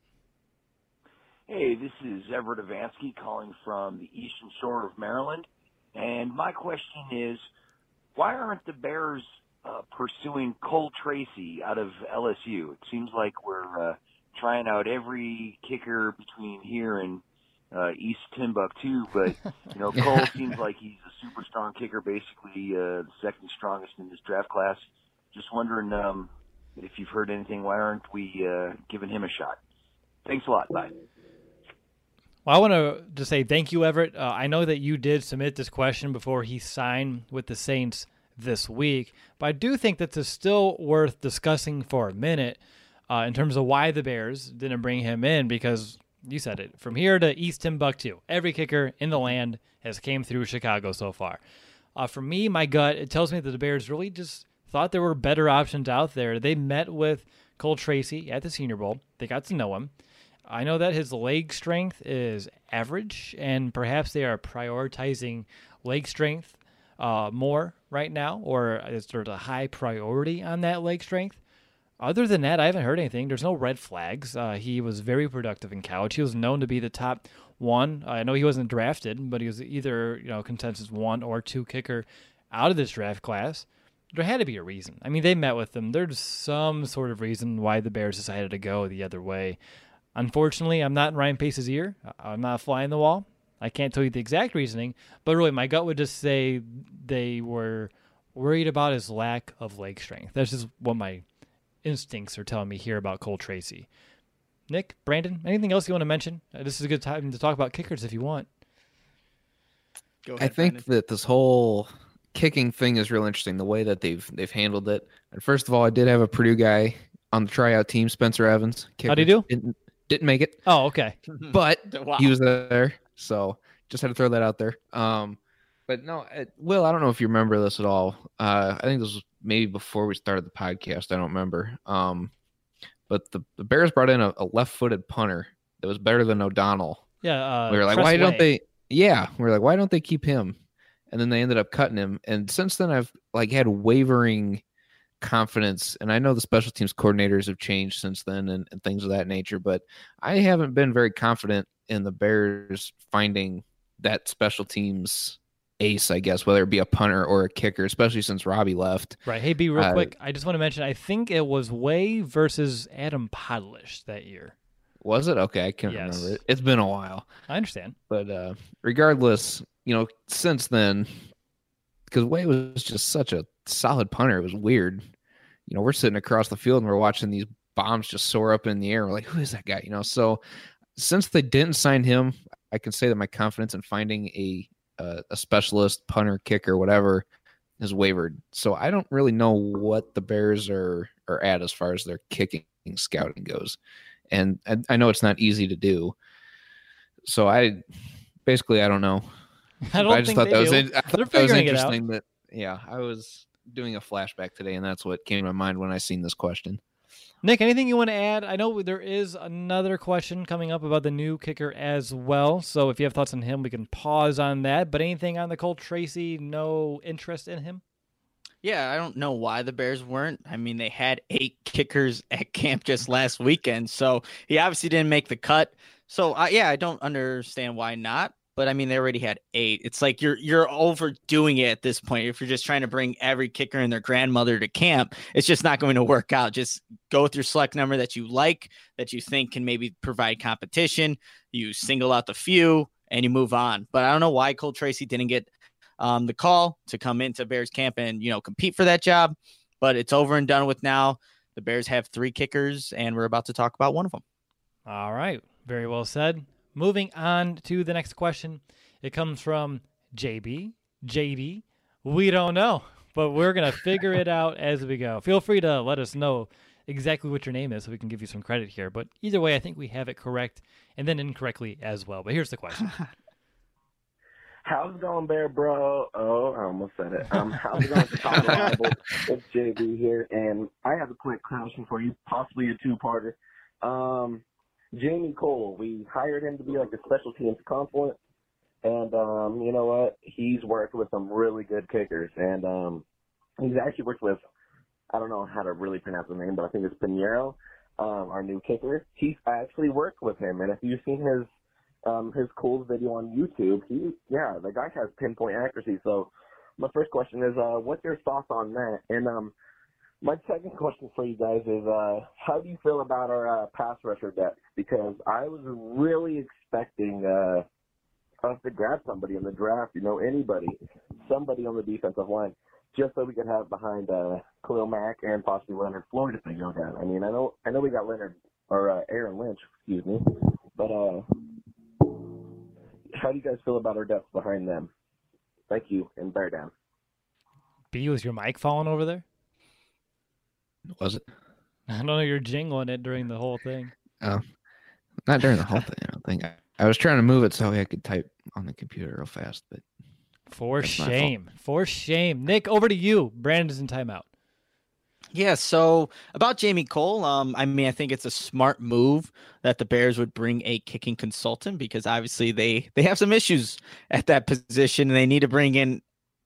Hey, this is Everett Avansky calling from the Eastern Shore of Maryland. And my question is, why aren't the Bears pursuing Cole Tracy out of LSU? It seems like we're trying out every kicker between here and East Timbuktu, but Cole seems like he's a super strong kicker, basically the second strongest in this draft class. Just wondering if you've heard anything. Why aren't we giving him a shot? Thanks a lot. Bye. Well, I want to just say thank you, Everett. I know that you did submit this question before he signed with the Saints this week, but I do think that it's still worth discussing for a minute in terms of why the Bears didn't bring him in, because you said it, from here to East Timbuktu, every kicker in the land has came through Chicago so far. For me, my gut, it tells me that the Bears really just thought there were better options out there. They met with Cole Tracy at the Senior Bowl. They got to know him. I know that his leg strength is average, and perhaps they are prioritizing leg strength more right now, or is there a high priority on that leg strength? Other than that, I haven't heard anything. There's no red flags. He was very productive in college. He was known to be the top one. I know he wasn't drafted, but he was either consensus 1 or 2 kicker out of this draft class. There had to be a reason. I mean, they met with him. There's some sort of reason why the Bears decided to go the other way. Unfortunately, I'm not in Ryan Pace's ear. I'm not flying the wall. I can't tell you the exact reasoning, but really my gut would just say they were worried about his lack of leg strength. That's just what my instincts are telling me here about Cole Tracy. Nick, Brandon, anything else you want to mention? This is a good time to talk about kickers if you want. Go ahead, I think Brandon. that this whole kicking thing is real interesting, the way that they've handled it. And first of all, I did have a Purdue guy on the tryout team, Spencer Evans. Kicker. How'd he do? Didn't make it. Oh, okay. But Wow. he was there, so just had to throw that out there. But no, Will, I don't know if you remember this at all. I think this was maybe before we started the podcast. I don't remember. But the Bears brought in a left-footed punter that was better than O'Donnell. Yeah. We were like, why don't they? Yeah, we were like, why don't they keep him? And then they ended up cutting him. And since then, I've had wavering confidence. And I know the special teams coordinators have changed since then and things of that nature. But I haven't been very confident in the Bears finding that special teams ace, I guess, whether it be a punter or a kicker, especially since Robbie left. Right. Hey, B, real quick, I just want to mention, I think it was Way versus Adam Podlish that year. Was it? Okay, I can't remember it. It's been a while. I understand. But regardless, since then, because Way was just such a solid punter, it was weird. We're sitting across the field and we're watching these bombs just soar up in the air. We're like, who is that guy? So since they didn't sign him, I can say that my confidence in finding a specialist punter, kicker, whatever, has wavered. So I don't really know what the Bears are at as far as their kicking scouting goes. And I know it's not easy to do. So I don't know. I just thought that was interesting that, I was doing a flashback today, and that's what came to my mind when I seen this question. Nick, anything you want to add? I know there is another question coming up about the new kicker as well. So if you have thoughts on him, we can pause on that. But anything on the Cole Tracy, no interest in him? Yeah, I don't know why the Bears weren't. I mean, they had 8 kickers at camp just last weekend, so he obviously didn't make the cut. So, I don't understand why not. but I mean, they already had 8. It's like you're overdoing it at this point. If you're just trying to bring every kicker and their grandmother to camp, it's just not going to work out. Just go with your select number that you like, that you think can maybe provide competition. You single out the few and you move on. But I don't know why Cole Tracy didn't get the call to come into Bears camp and, compete for that job. But it's over and done with now. The Bears have 3 kickers, and we're about to talk about one of them. All right. Very well said. Moving on to the next question. It comes from JD. We don't know, but we're going to figure it out as we go. Feel free to let us know exactly what your name is so we can give you some credit here. But either way, I think we have it correct and then incorrectly as well. But here's the question. How's it going, Bear Bro? Oh, I almost said it. How's it going, Chicago Bible? It's JB here, and I have a quick question for you, possibly a two-parter. Jamie Cole, we hired him to be like a special teams consultant, and you know what? He's worked with some really good kickers, and he's actually worked with, I don't know how to really pronounce the name, but I think it's Pinheiro, our new kicker. He's actually worked with him, and if you've seen his Cole's video on YouTube, the guy has pinpoint accuracy. So my first question is, what's your thoughts on that? And my second question for you guys is, how do you feel about our pass rusher depth? Because I was really expecting us to grab somebody in the draft, somebody on the defensive line, just so we could have behind Khalil Mack and possibly Leonard Floyd if they go down. I mean, I know we got Aaron Lynch, but how do you guys feel about our depth behind them? Thank you, and bear down. B, was your mic falling over there? Was it? I don't know. You're jingling it during the whole thing. Oh, not during the whole thing, I don't think. I was trying to move it so I could type on the computer real fast, but for shame. Nick, over to you. Brandon's in timeout. Yeah, so about Jamie Cole, I think it's a smart move that the Bears would bring a kicking consultant because obviously they have some issues at that position and they need to bring in,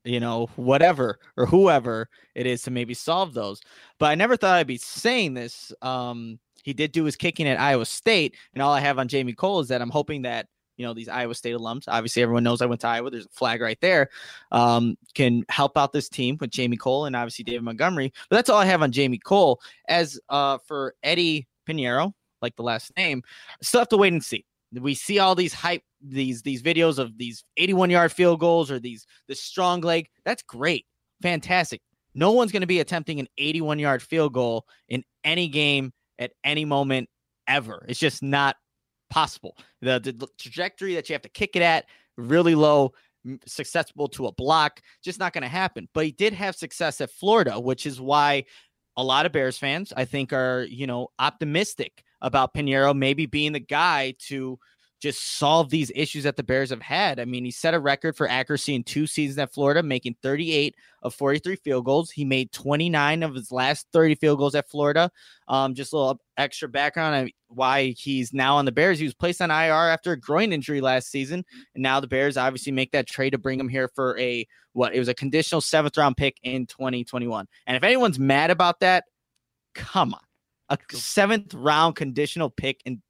whatever or whoever it is to maybe solve those. But I never thought I'd be saying this. He did do his kicking at Iowa State, and all I have on Jamie Cole is that I'm hoping that these Iowa State alums, obviously everyone knows I went to Iowa, there's a flag right there, can help out this team with Jamie Cole and obviously David Montgomery. But that's all I have on Jamie Cole. As for Eddie Pinheiro, like the last name, still have to wait and see. We see all these these videos of these 81-yard field goals or this strong leg. That's great. Fantastic. No one's going to be attempting an 81-yard field goal in any game at any moment ever. It's just not possible. The trajectory that you have to kick it at, really low, susceptible to a block, just not going to happen. But he did have success at Florida, which is why a lot of Bears fans, I think, are, optimistic about Pinheiro maybe being the guy to just solve these issues that the Bears have had. I mean, he set a record for accuracy in 2 seasons at Florida, making 38 of 43 field goals. He made 29 of his last 30 field goals at Florida. Just a little extra background on why he's now on the Bears. He was placed on IR after a groin injury last season. And now the Bears obviously make that trade to bring him here for it was a conditional 7th round pick in 2021. And if anyone's mad about that, come on. A 7th round conditional pick in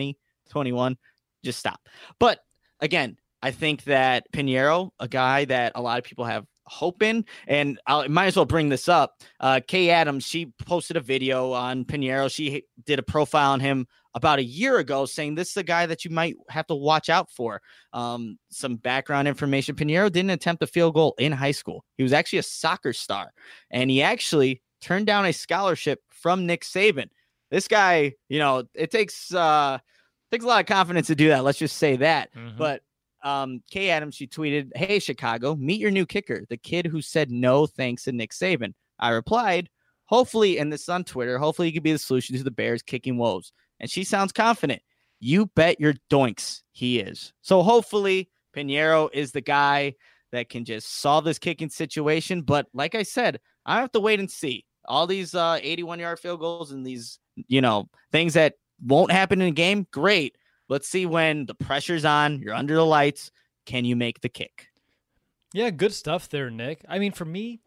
2021. Just stop. But again, I think that Pinheiro, a guy that a lot of people have hope in, and I might as well bring this up. Kay Adams, she posted a video on Pinheiro. She did a profile on him about a year ago saying this is a guy that you might have to watch out for. Some background information. Pinheiro didn't attempt a field goal in high school. He was actually a soccer star, and he actually turned down a scholarship from Nick Saban. This guy, it takes a lot of confidence to do that. Let's just say that. Mm-hmm. But Kay Adams, she tweeted, "Hey, Chicago, meet your new kicker, the kid who said no thanks to Nick Saban." I replied, "Hopefully," and this is on Twitter, "hopefully you could be the solution to the Bears kicking woes." And she sounds confident. You bet your doinks he is. So hopefully Pinheiro is the guy that can just solve this kicking situation. But like I said, I have to wait and see. All these 81-yard field goals and these, things that won't happen in a game, great. Let's see when the pressure's on, you're under the lights, can you make the kick? Yeah, good stuff there, Nick. I mean, for me,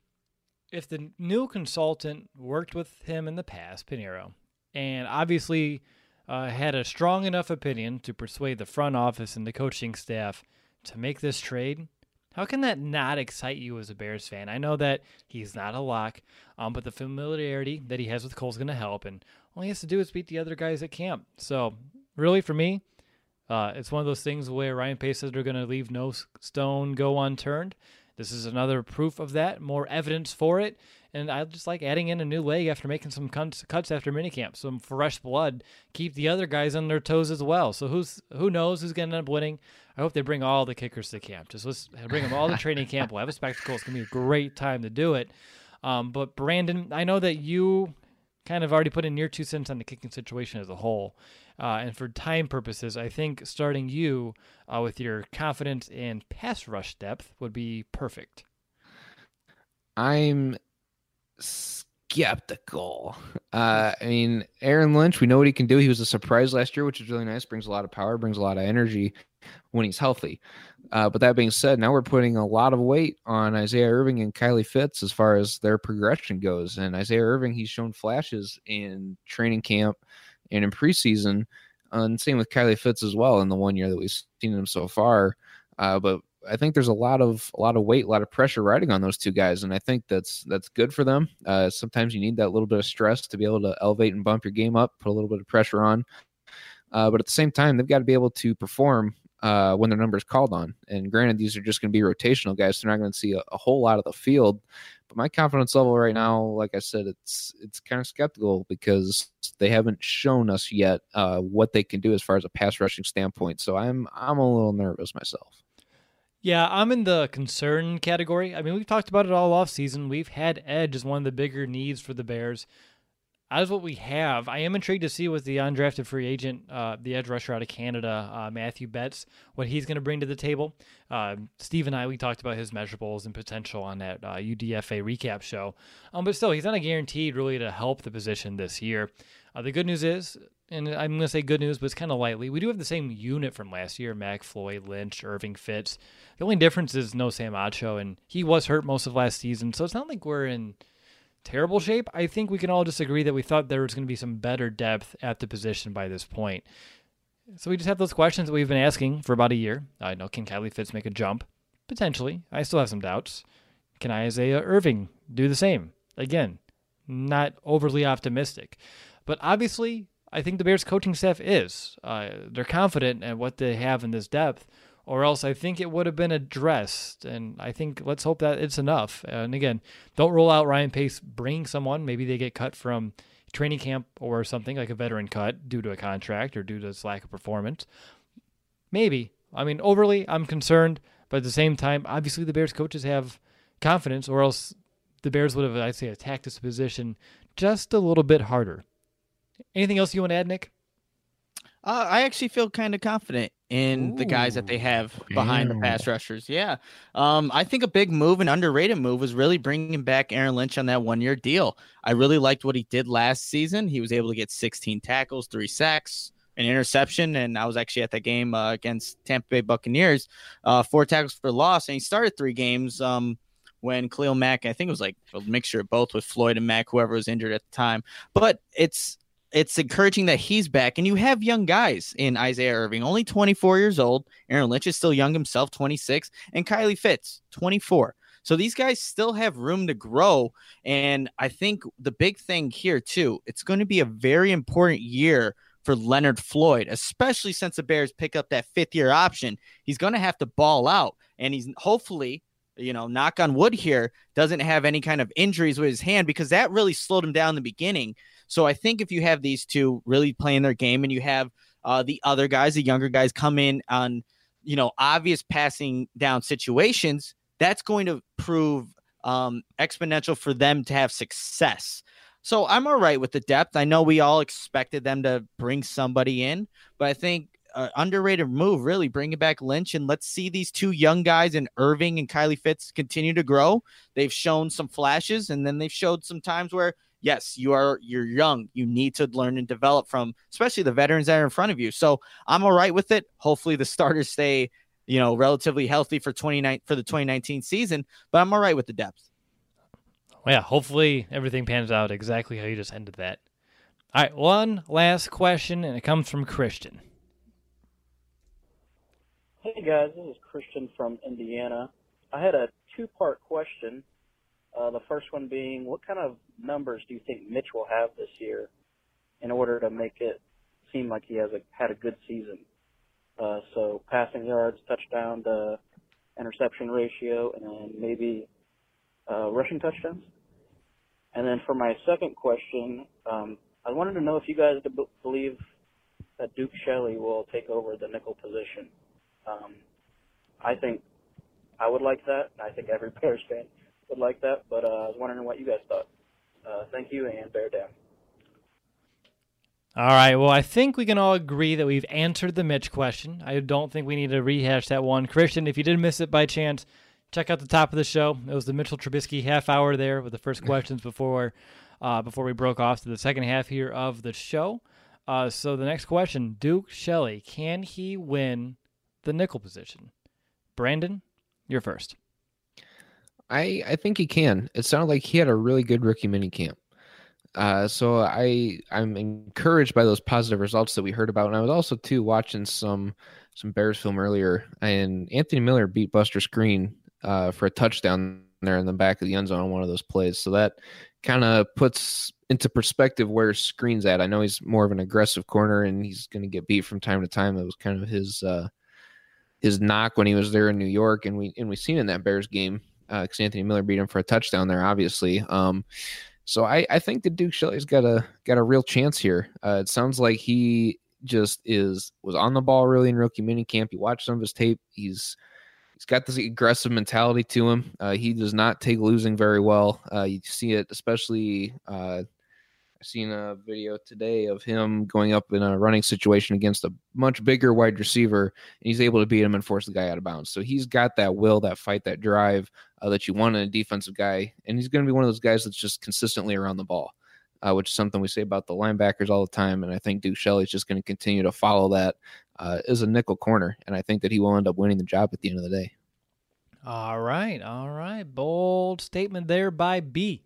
if the new consultant worked with him in the past, Pinheiro, and obviously had a strong enough opinion to persuade the front office and the coaching staff to make this trade, how can that not excite you as a Bears fan? I know that he's not a lock, but the familiarity that he has with Cole's going to help, and all he has to do is beat the other guys at camp. So, really, for me, it's one of those things where Ryan Pace says they're going to leave no stone go unturned. This is another proof of that, more evidence for it. And I just like adding in a new leg after making some cuts after minicamp, some fresh blood, keep the other guys on their toes as well. So who knows who's going to end up winning? I hope they bring all the kickers to camp. Let's bring them all to training camp. We'll have a spectacle. It's going to be a great time to do it. But Brandon, I know that you kind of already put in your 2 cents on the kicking situation as a whole. And for time purposes, I think starting you with your confidence in pass rush depth would be perfect. I'm skeptical. I mean, Aaron Lynch, we know what he can do. He was a surprise last year, which is really nice. Brings a lot of power, brings a lot of energy when he's healthy. But that being said, now we're putting a lot of weight on Isaiah Irving and Kylie Fitz as far as their progression goes. And Isaiah Irving, he's shown flashes in training camp and in preseason. And same with Kylie Fitz as well in the 1 year that we've seen him so far. But I think there's a lot of weight, a lot of pressure riding on those two guys, and I think that's good for them. Sometimes you need that little bit of stress to be able to elevate and bump your game up, put a little bit of pressure on. But at the same time, they've got to be able to perform when their number is called on. And granted, these are just going to be rotational guys, so they're not going to see a whole lot of the field. But my confidence level right now, like I said, it's kind of skeptical because they haven't shown us yet what they can do as far as a pass rushing standpoint. So I'm a little nervous myself. Yeah, I'm in the concern category. I mean, we've talked about it all off season. We've had edge as one of the bigger needs for the Bears. As what we have, I am intrigued to see with the undrafted free agent, the edge rusher out of Canada, Matthew Betts, what he's going to bring to the table. Steve and I, we talked about his measurables and potential on that UDFA recap show. But still, he's not guaranteed really to help the position this year. The good news is, and I'm going to say good news, but it's kind of lightly, we do have the same unit from last year, Mac, Floyd, Lynch, Irving, Fitz. The only difference is no Sam Acho, and he was hurt most of last season, so it's not like we're in terrible shape. I think we can all just agree that we thought there was going to be some better depth at the position by this point. So we just have those questions that we've been asking for about a year. I know, can Kylie Fitz make a jump? Potentially. I still have some doubts. Can Isaiah Irving do the same? Again, not overly optimistic. But obviously, I think the Bears coaching staff is. They're confident in what they have in this depth, or else I think it would have been addressed. And I think let's hope that it's enough. And again, don't rule out Ryan Pace bringing someone. Maybe they get cut from training camp or something, like a veteran cut due to a contract or due to its lack of performance. Maybe. I mean, overly, I'm concerned. But at the same time, obviously the Bears coaches have confidence, or else the Bears would have, I'd say, attacked this position just a little bit harder. Anything else you want to add, Nick? I actually feel kind of confident in the guys that they have behind the pass rushers. Yeah. I think a big move, an underrated move, was really bringing back Aaron Lynch on that 1 year deal. I really liked what he did last season. He was able to get 16 tackles, 3 sacks, an interception. And I was actually at that game against Tampa Bay Buccaneers, 4 tackles for loss. And he started 3 games when Khalil Mack, I think it was like a mixture of both with Floyd and Mack, whoever was injured at the time. But it's encouraging that he's back, and you have young guys in Isaiah Irving, only 24 years old. Aaron Lynch is still young himself, 26, and Kylie Fitz, 24. So these guys still have room to grow, and I think the big thing here, too, it's going to be a very important year for Leonard Floyd, especially since the Bears pick up that 5th-year option. He's going to have to ball out, and he's hopefully, knock on wood here, doesn't have any kind of injuries with his hand, because that really slowed him down in the beginning. So I think if you have these two really playing their game, and you have the other guys, the younger guys, come in on, obvious passing down situations, that's going to prove exponential for them to have success. So I'm all right with the depth. I know we all expected them to bring somebody in, but I think underrated move, really bringing back Lynch, and let's see these 2 young guys in Irving and Kylie Fitz continue to grow. They've shown some flashes, and then they've showed some times where, yes, you're young. You need to learn and develop from, especially the veterans that are in front of you. So I'm all right with it. Hopefully the starters stay, relatively healthy for the 2019 season, but I'm all right with the depth. Well, yeah, hopefully everything pans out exactly how you just ended that. All right, one last question, and it comes from Christian. Hey guys, this is Christian from Indiana. I had a two-part question. The first one being, what kind of numbers do you think Mitch will have this year in order to make it seem like he has had a good season? So passing yards, touchdown to interception ratio, and then maybe rushing touchdowns. And then for my second question, I wanted to know if you guys believe that Duke Shelley will take over the nickel position. I think I would like that. I think every Bears fan would like that, but I was wondering what you guys thought. Thank you, and bear down. All right, well, I think we can all agree that we've answered the Mitch question. I don't think we need to rehash that one. Christian, if you did miss it by chance, check out the top of the show. It was the Mitchell Trubisky half hour there with the first questions before we broke off to the second half here of the show. So the next question, Duke Shelley, can he win the nickel position? Brandon, you're first. I think he can. It sounded like he had a really good rookie mini camp. So I'm encouraged by those positive results that we heard about. And I was also too watching some Bears film earlier, and Anthony Miller beat Buster Skrine for a touchdown there in the back of the end zone on one of those plays. So that kind of puts into perspective where Skrine's at. I know he's more of an aggressive corner and he's going to get beat from time to time. That was kind of his knock when he was there in New York, and we seen in that Bears game because Anthony Miller beat him for a touchdown there, obviously. So I think that Duke Shelley's got a real chance here. It sounds like he just was on the ball really in rookie minicamp. You watch some of his tape. He's got this aggressive mentality to him. He does not take losing very well. You see it, especially. I've seen a video today of him going up in a running situation against a much bigger wide receiver, and he's able to beat him and force the guy out of bounds. So he's got that will, that fight, that drive that you want in a defensive guy, and he's going to be one of those guys that's just consistently around the ball, which is something we say about the linebackers all the time, and I think Duke Shelley's just going to continue to follow that as a nickel corner, and I think that he will end up winning the job at the end of the day. All right. Bold statement there by B.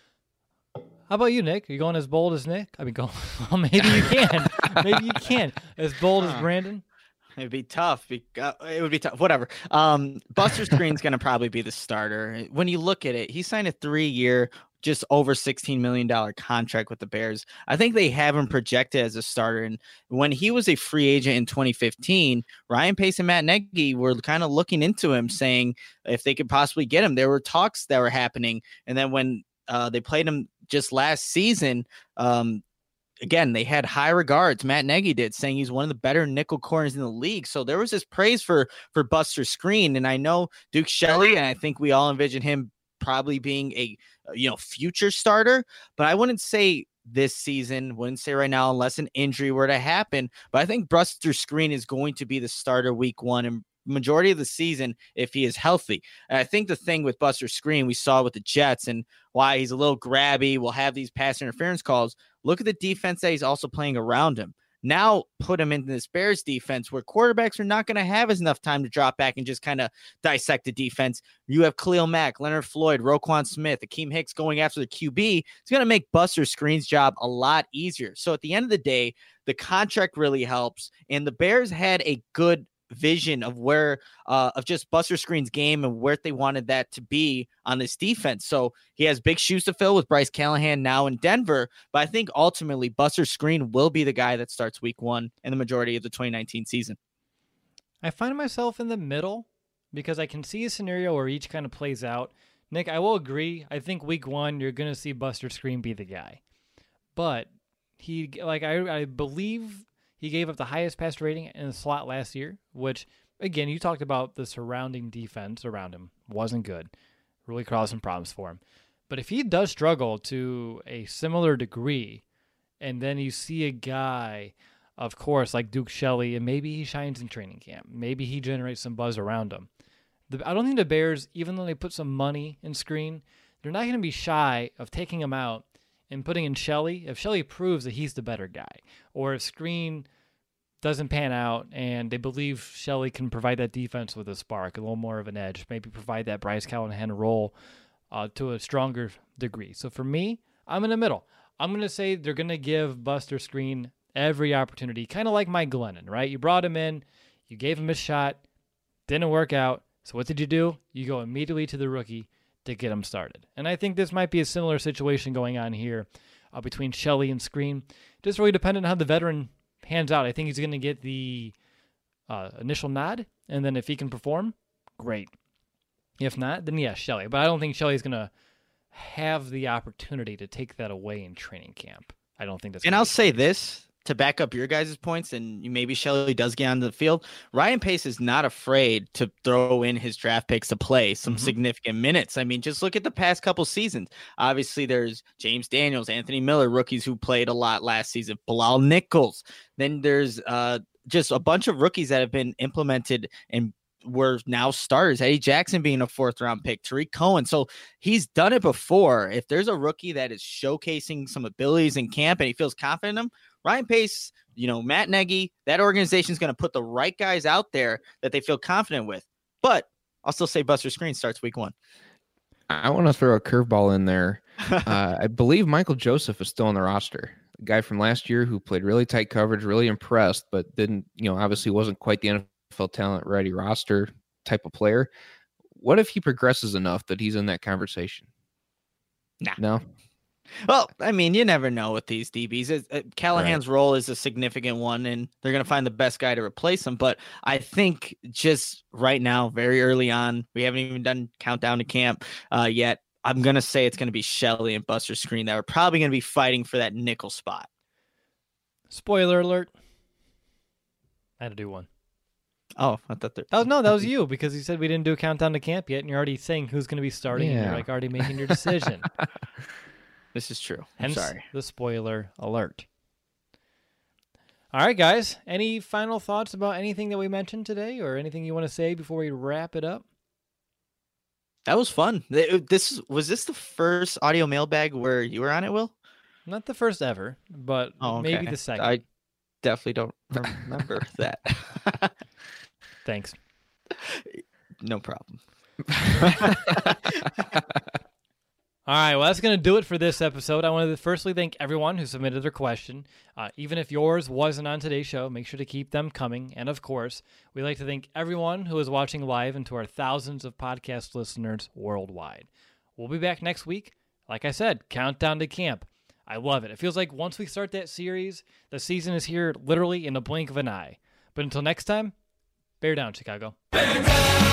How about you, Nick? Are you going as bold as Nick? I mean, well, maybe you can. Maybe you can. As bold as Brandon? It'd be tough. It would be tough. Whatever. Buster Skrine's going to probably be the starter. When you look at it, he signed a 3-year, just over $16 million contract with the Bears. I think they have him projected as a starter. And when he was a free agent in 2015, Ryan Pace and Matt Nagy were kind of looking into him, saying if they could possibly get him. There were talks that were happening. And then when they played him just last season, again, they had high regards. Matt Nagy did, saying he's one of the better nickel corners in the league. So there was this praise for Buster Skrine. And I know Duke Shelley, and I think we all envision him probably being a future starter, but I wouldn't say this season, wouldn't say right now unless an injury were to happen. But I think Buster Skrine is going to be the starter week 1 and majority of the season if he is healthy. And I think the thing with Buster Skrine we saw with the Jets and why he's a little grabby, will have these pass interference calls. Look at the defense that he's also playing around him. Now put him into this Bears defense where quarterbacks are not going to have enough time to drop back and just kind of dissect the defense. You have Khalil Mack, Leonard Floyd, Roquan Smith, Akeem Hicks going after the QB. It's going to make Buster Skrine's job a lot easier. So at the end of the day, the contract really helps. And the Bears had a good vision of where of just Buster Skrine's game and where they wanted that to be on this defense. So he has big shoes to fill with Bryce Callahan now in Denver, but I think ultimately Buster Skrine will be the guy that starts week 1 in the majority of the 2019 season. I find myself in the middle because I can see a scenario where each kind of plays out. Nick, I will agree. I think week 1 you're going to see Buster Skrine be the guy, but I believe he gave up the highest pass rating in the slot last year, which, again, you talked about the surrounding defense around him wasn't good. Really caused some problems for him. But if he does struggle to a similar degree, and then you see a guy, of course, like Duke Shelley, and maybe he shines in training camp. Maybe he generates some buzz around him. I don't think the Bears, even though they put some money in Skrine, they're not going to be shy of taking him out and putting in Shelley, if Shelley proves that he's the better guy, or if Skrine doesn't pan out and they believe Shelley can provide that defense with a spark, a little more of an edge, maybe provide that Bryce Callahan role to a stronger degree. So for me, I'm in the middle. I'm going to say they're going to give Buster Skrine every opportunity, kind of like Mike Glennon, right? You brought him in, you gave him a shot, didn't work out. So what did you do? You go immediately to the rookie to get him started. And I think this might be a similar situation going on here between Shelley and Skrine. Just really dependent on how the veteran pans out. I think he's going to get the initial nod, and then if he can perform, great. If not, then yeah, Shelley. But I don't think Shelley's going to have the opportunity to take that away in training camp. I don't think that's. And I'll say this to back up your guys' points, and maybe Shelley does get on the field. Ryan Pace is not afraid to throw in his draft picks to play some significant minutes. I mean, just look at the past couple seasons. Obviously, there's James Daniels, Anthony Miller, rookies who played a lot last season, Bilal Nichols. Then there's just a bunch of rookies that have been implemented and were now starters. Eddie Jackson being a 4th-round pick, Tariq Cohen. So he's done it before. If there's a rookie that is showcasing some abilities in camp and he feels confident in them, Ryan Pace, Matt Nagy, that organization is going to put the right guys out there that they feel confident with. But I'll still say Buster Skrine starts week 1. I want to throw a curveball in there. I believe Michael Joseph is still on the roster. A guy from last year who played really tight coverage, really impressed, but didn't, obviously wasn't quite the NFL talent ready roster type of player. What if he progresses enough that he's in that conversation? Nah. No. Well, I mean, you never know with these DBs. Callahan's role is a significant one, and they're going to find the best guy to replace him. But I think just right now, very early on, we haven't even done countdown to camp yet. I'm going to say it's going to be Shelley and Buster Skrine that are probably going to be fighting for that nickel spot. Spoiler alert. I had to do one. Oh, I thought that. Oh, no, that was you, because you said we didn't do a countdown to camp yet, and you're already saying who's going to be starting, and you're already making your decision. This is true. Hence I'm sorry. The spoiler alert. All right, guys. Any final thoughts about anything that we mentioned today, or anything you want to say before we wrap it up? That was fun. Was this the first audio mailbag where you were on it, Will? Not the first ever, but maybe the second. I definitely don't remember that. Thanks. No problem. All right, well, that's going to do it for this episode. I want to firstly thank everyone who submitted their question. Even if yours wasn't on today's show, make sure to keep them coming. And, of course, we'd like to thank everyone who is watching live and to our thousands of podcast listeners worldwide. We'll be back next week. Like I said, countdown to camp. I love it. It feels like once we start that series, the season is here literally in the blink of an eye. But until next time, bear down, Chicago. Bear down!